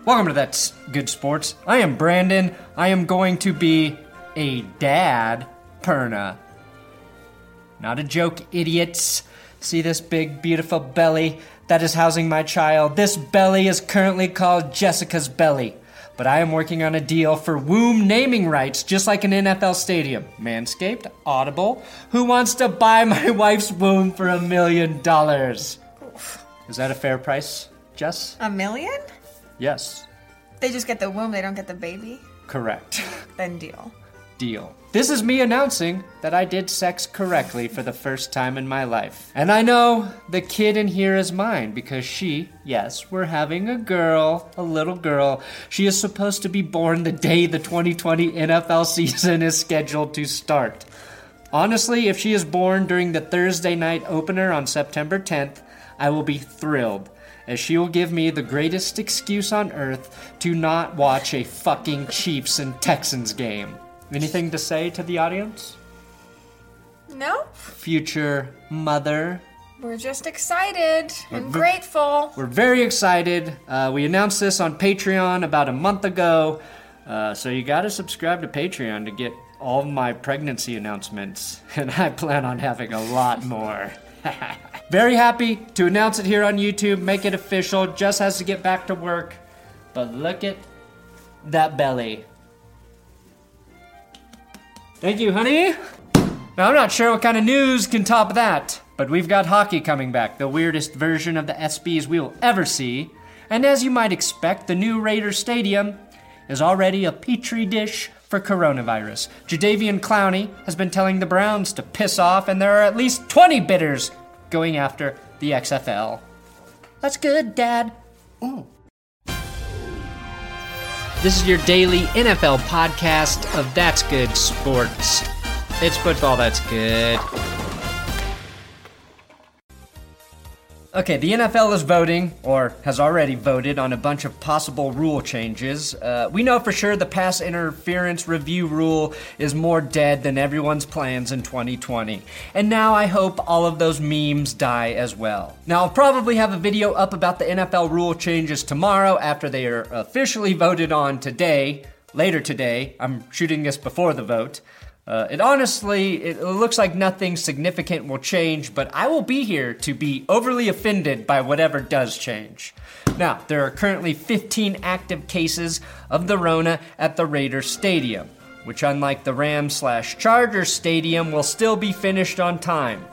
Welcome to That's Good Sports. I am Brandon. I am going to be a dad perna. Not a joke, idiots. See this big, beautiful belly that is housing my child? This belly is currently called Jessica's belly. But I am working on a deal for womb naming rights, just like an NFL stadium. Manscaped, Audible. Who wants to buy my wife's womb for $1 million? Is that a fair price, Jess? $1 million? Yes. They just get the womb, they don't get the baby? Correct. Then deal. Deal. This is me announcing that I did sex correctly for the first time in my life. And I know the kid in here is mine because yes, we're having a girl, a little girl. She is supposed to be born the day the 2020 NFL season is scheduled to start. Honestly, if she is born during the Thursday night opener on September 10th, I will be thrilled, as she will give me the greatest excuse on earth to not watch a fucking Chiefs and Texans game. Anything to say to the audience? No. Future mother. We're just excited and grateful. We're very excited. We announced this on Patreon about a month ago, so you gotta subscribe to Patreon to get all my pregnancy announcements, and I plan on having a lot more. Very happy to announce it here on YouTube, make it official. Jess has to get back to work, but look at that belly. Thank you, honey. Now, I'm not sure what kind of news can top that, but we've got hockey coming back, the weirdest version of the SBs we will ever see. And as you might expect, the new Raiders Stadium is already a petri dish for coronavirus. Jadeveon Clowney has been telling the Browns to piss off, and there are at least 20 bidders going after the XFL. That's good, Dad. Ooh. This is your daily NFL podcast of That's Good Sports. It's football that's good. Okay, the NFL is voting, or has already voted, on a bunch of possible rule changes. We know for sure the pass interference review rule is more dead than everyone's plans in 2020. And now I hope all of those memes die as well. Now, I'll probably have a video up about the NFL rule changes tomorrow after they are officially voted on today. Later today. I'm shooting this before the vote. It looks like nothing significant will change, but I will be here to be overly offended by whatever does change. Now, there are currently 15 active cases of the Rona at the Raiders Stadium, which, unlike the Rams/Chargers Stadium, will still be finished on time.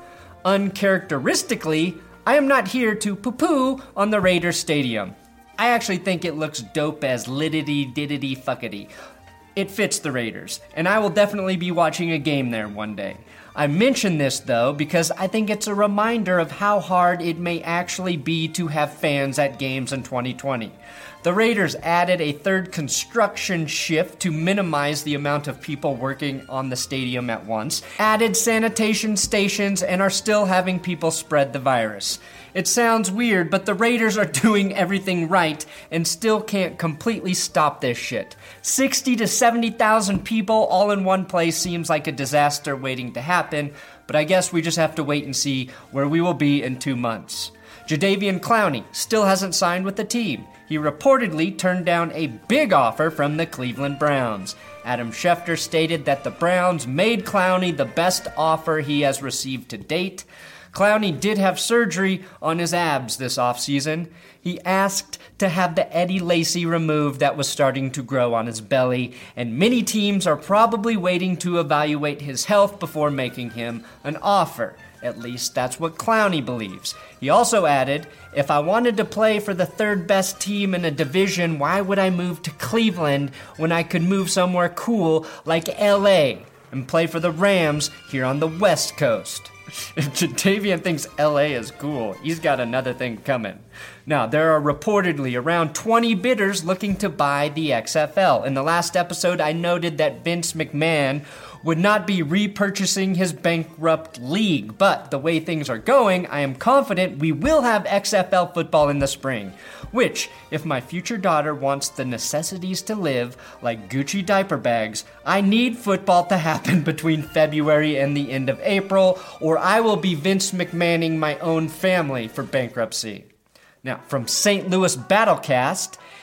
Uncharacteristically, I am not here to poo-poo on the Raiders Stadium. I actually think it looks dope as liddity-diddity-fuckity. It fits the Raiders, and I will definitely be watching a game there one day. I mention this, though, because I think it's a reminder of how hard it may actually be to have fans at games in 2020. The Raiders added a third construction shift to minimize the amount of people working on the stadium at once, added sanitation stations, and are still having people spread the virus. It sounds weird, but the Raiders are doing everything right and still can't completely stop this shit. 60 to 70,000 people all in one place seems like a disaster waiting to happen, but I guess we just have to wait and see where we will be in 2 months. Jadeveon Clowney still hasn't signed with the team. He reportedly turned down a big offer from the Cleveland Browns. Adam Schefter stated that the Browns made Clowney the best offer he has received to date. Clowney did have surgery on his abs this offseason. He asked to have the Eddie Lacy removed that was starting to grow on his belly, and many teams are probably waiting to evaluate his health before making him an offer. At least that's what Clowney believes. He also added, "If I wanted to play for the third best team in a division, why would I move to Cleveland when I could move somewhere cool like LA and play for the Rams here on the West Coast?" If Jadeveon thinks LA is cool, he's got another thing coming. Now, there are reportedly around 20 bidders looking to buy the XFL. In the last episode, I noted that Vince McMahon would not be repurchasing his bankrupt league, but the way things are going, I am confident we will have XFL football in the spring, which, if my future daughter wants the necessities to live, like Gucci diaper bags, I need football to happen between February and the end of April, or I will be Vince McMahoning my own family for bankruptcy. Now, from St. Louis Battlecast,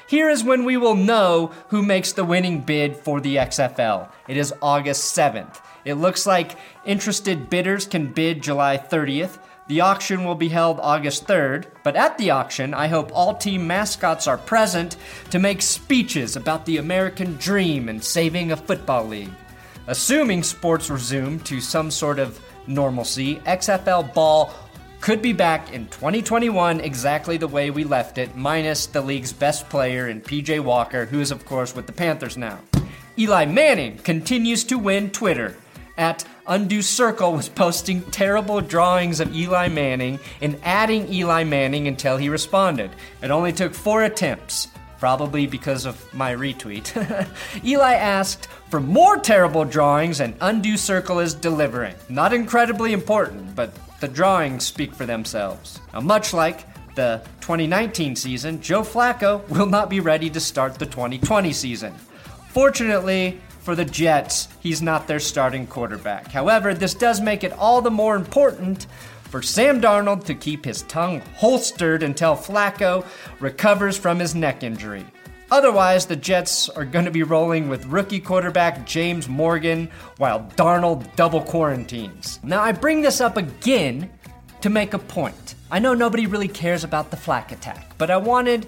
Here is when we will know who makes the winning bid for the XFL. It is August 7th. It looks like interested bidders can bid July 30th. The auction will be held August 3rd, but at the auction, I hope all team mascots are present to make speeches about the American dream and saving a football league. Assuming sports resume to some sort of normalcy, XFL ball could be back in 2021 exactly the way we left it, minus the league's best player in PJ Walker, who is of course with the Panthers now. Eli Manning continues to win Twitter. At Undue Circle was posting terrible drawings of Eli Manning and adding Eli Manning until he responded. It only took 4 attempts, probably because of my retweet. Eli asked for more terrible drawings and Undue Circle is delivering. Not incredibly important, but the drawings speak for themselves. Now, much like the 2019 season, Joe Flacco will not be ready to start the 2020 season. Fortunately, for the Jets, he's not their starting quarterback. However, this does make it all the more important for Sam Darnold to keep his tongue holstered until Flacco recovers from his neck injury. Otherwise, the Jets are going to be rolling with rookie quarterback James Morgan while Darnold double quarantines. Now, I bring this up again to make a point. I know nobody really cares about the Flack attack, but I wanted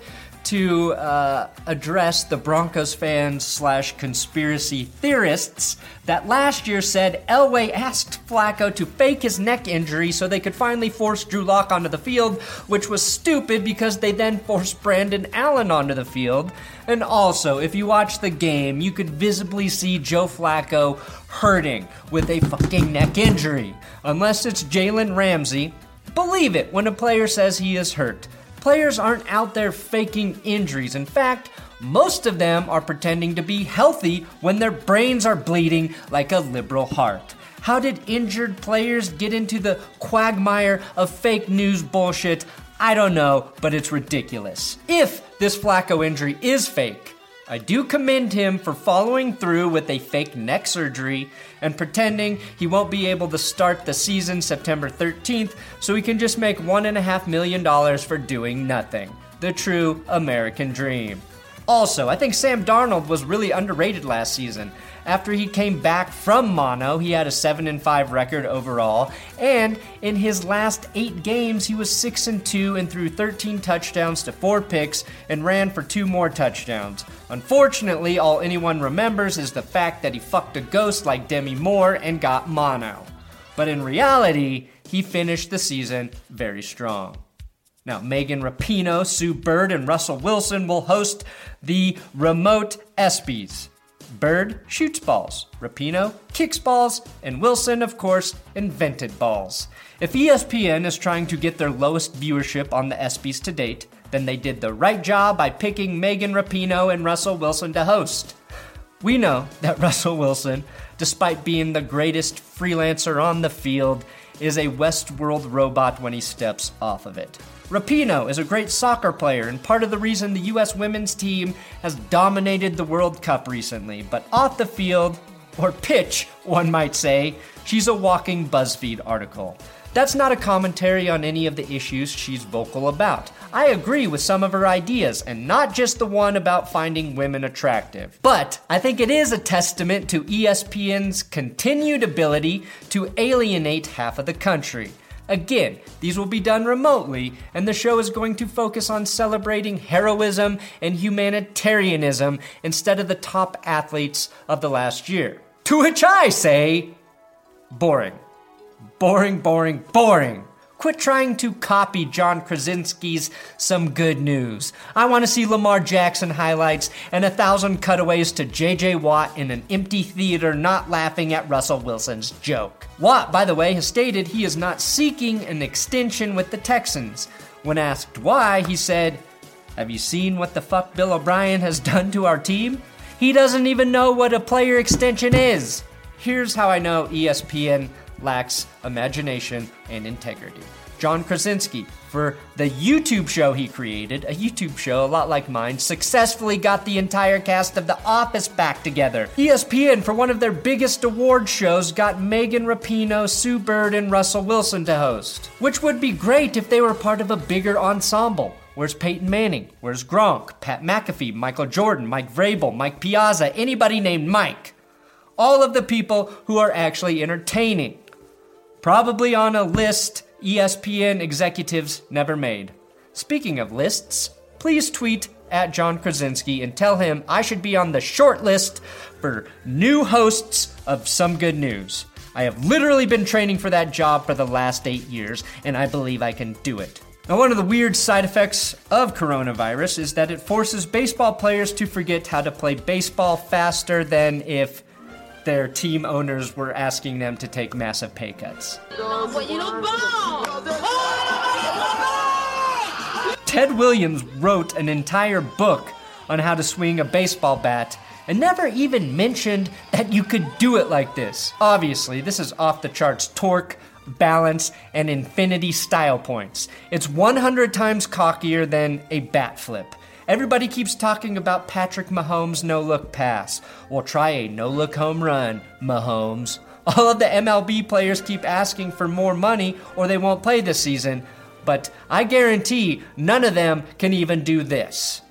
to address the Broncos fans / conspiracy theorists that last year said Elway asked Flacco to fake his neck injury so they could finally force Drew Lock onto the field, which was stupid because they then forced Brandon Allen onto the field. And also, if you watch the game, you could visibly see Joe Flacco hurting with a fucking neck injury. Unless it's Jalen Ramsey, believe it when a player says he is hurt. Players aren't out there faking injuries. In fact, most of them are pretending to be healthy when their brains are bleeding like a liberal heart. How did injured players get into the quagmire of fake news bullshit? I don't know, but it's ridiculous. If this Flacco injury is fake, I do commend him for following through with a fake neck surgery and pretending he won't be able to start the season September 13th so he can just make $1.5 million for doing nothing. The true American dream. Also, I think Sam Darnold was really underrated last season. After he came back from mono, he had a 7-5 record overall, and in his last 8 games, he was 6-2 and threw 13 touchdowns to 4 picks and ran for 2 more touchdowns. Unfortunately, all anyone remembers is the fact that he fucked a ghost like Demi Moore and got mono. But in reality, he finished the season very strong. Now, Megan Rapinoe, Sue Bird, and Russell Wilson will host the remote ESPYs. Bird shoots balls, Rapinoe kicks balls, and Wilson, of course, invented balls. If ESPN is trying to get their lowest viewership on the ESPYs to date, then they did the right job by picking Megan Rapinoe and Russell Wilson to host. We know that Russell Wilson, despite being the greatest freelancer on the field, is a Westworld robot when he steps off of it. Rapinoe is a great soccer player and part of the reason the U.S. women's team has dominated the World Cup recently. But off the field, or pitch, one might say, she's a walking BuzzFeed article. That's not a commentary on any of the issues she's vocal about. I agree with some of her ideas, and not just the one about finding women attractive. But I think it is a testament to ESPN's continued ability to alienate half of the country. Again, these will be done remotely, and the show is going to focus on celebrating heroism and humanitarianism instead of the top athletes of the last year. To which I say, boring. Boring, boring, boring. Quit trying to copy John Krasinski's Some Good News. I want to see Lamar Jackson highlights and 1,000 cutaways to J.J. Watt in an empty theater not laughing at Russell Wilson's joke. Watt, by the way, has stated he is not seeking an extension with the Texans. When asked why, he said, "Have you seen what the fuck Bill O'Brien has done to our team? He doesn't even know what a player extension is." Here's how I know ESPN lacks imagination and integrity. John Krasinski, for the YouTube show he created, a YouTube show a lot like mine, successfully got the entire cast of The Office back together. ESPN, for one of their biggest award shows, got Megan Rapinoe, Sue Bird, and Russell Wilson to host, which would be great if they were part of a bigger ensemble. Where's Peyton Manning? Where's Gronk? Pat McAfee, Michael Jordan, Mike Vrabel, Mike Piazza, anybody named Mike. All of the people who are actually entertaining. Probably on a list ESPN executives never made. Speaking of lists, please tweet at John Krasinski and tell him I should be on the short list for new hosts of Some Good News. I have literally been training for that job for the last 8 years, and I believe I can do it. Now, one of the weird side effects of coronavirus is that it forces baseball players to forget how to play baseball faster than if their team owners were asking them to take massive pay cuts. Ted Williams wrote an entire book on how to swing a baseball bat and never even mentioned that you could do it like this. Obviously, this is off the charts torque, balance, and infinity style points. It's 100 times cockier than a bat flip. Everybody keeps talking about Patrick Mahomes' no-look pass. Well, try a no-look home run, Mahomes. All of the MLB players keep asking for more money or they won't play this season, but I guarantee none of them can even do this.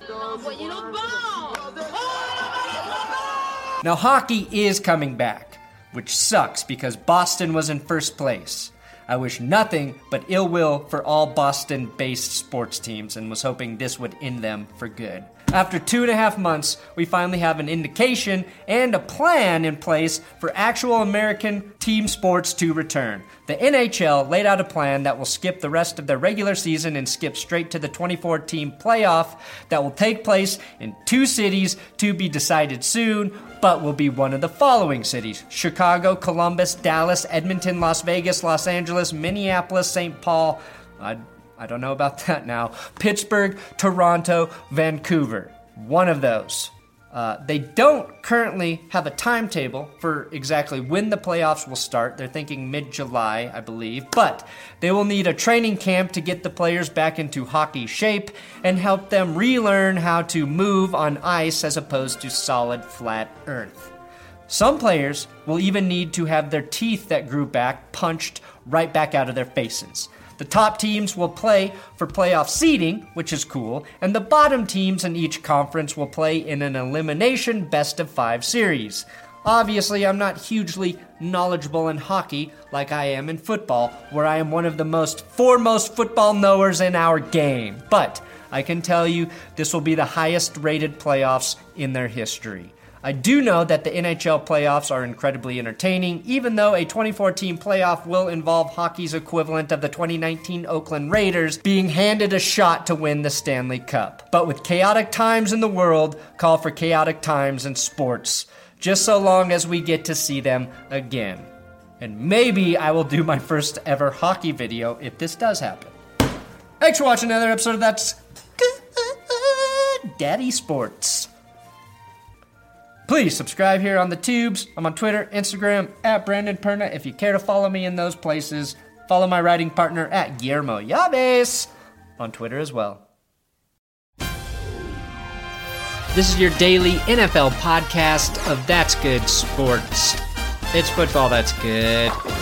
Now, hockey is coming back, which sucks because Boston was in first place. I wish nothing but ill will for all Boston-based sports teams and was hoping this would end them for good. After 2.5 months, we finally have an indication and a plan in place for actual American team sports to return. The NHL laid out a plan that will skip the rest of their regular season and skip straight to the 24-team playoff that will take place in 2 cities to be decided soon, but will be one of the following cities: Chicago, Columbus, Dallas, Edmonton, Las Vegas, Los Angeles, Minneapolis, St. Paul, I don't know about that now, Pittsburgh, Toronto, Vancouver. One of those. They don't currently have a timetable for exactly when the playoffs will start. They're thinking mid-July, I believe. But they will need a training camp to get the players back into hockey shape and help them relearn how to move on ice as opposed to solid, flat earth. Some players will even need to have their teeth that grew back punched right back out of their faces. The top teams will play for playoff seeding, which is cool, and the bottom teams in each conference will play in an elimination best-of-5 series. Obviously, I'm not hugely knowledgeable in hockey like I am in football, where I am one of the foremost football knowers in our game. But I can tell you this will be the highest-rated playoffs in their history. I do know that the NHL playoffs are incredibly entertaining, even though a 24-team playoff will involve hockey's equivalent of the 2019 Oakland Raiders being handed a shot to win the Stanley Cup. But with chaotic times in the world, call for chaotic times in sports, just so long as we get to see them again. And maybe I will do my first ever hockey video if this does happen. Thanks for watching another episode of That's Good Daddy Sports. Please subscribe here on the tubes. I'm on Twitter, Instagram, at Brandon Perna. If you care to follow me in those places, follow my writing partner at Guillermo Yaves on Twitter as well. This is your daily NFL podcast of That's Good Sports. It's football that's good.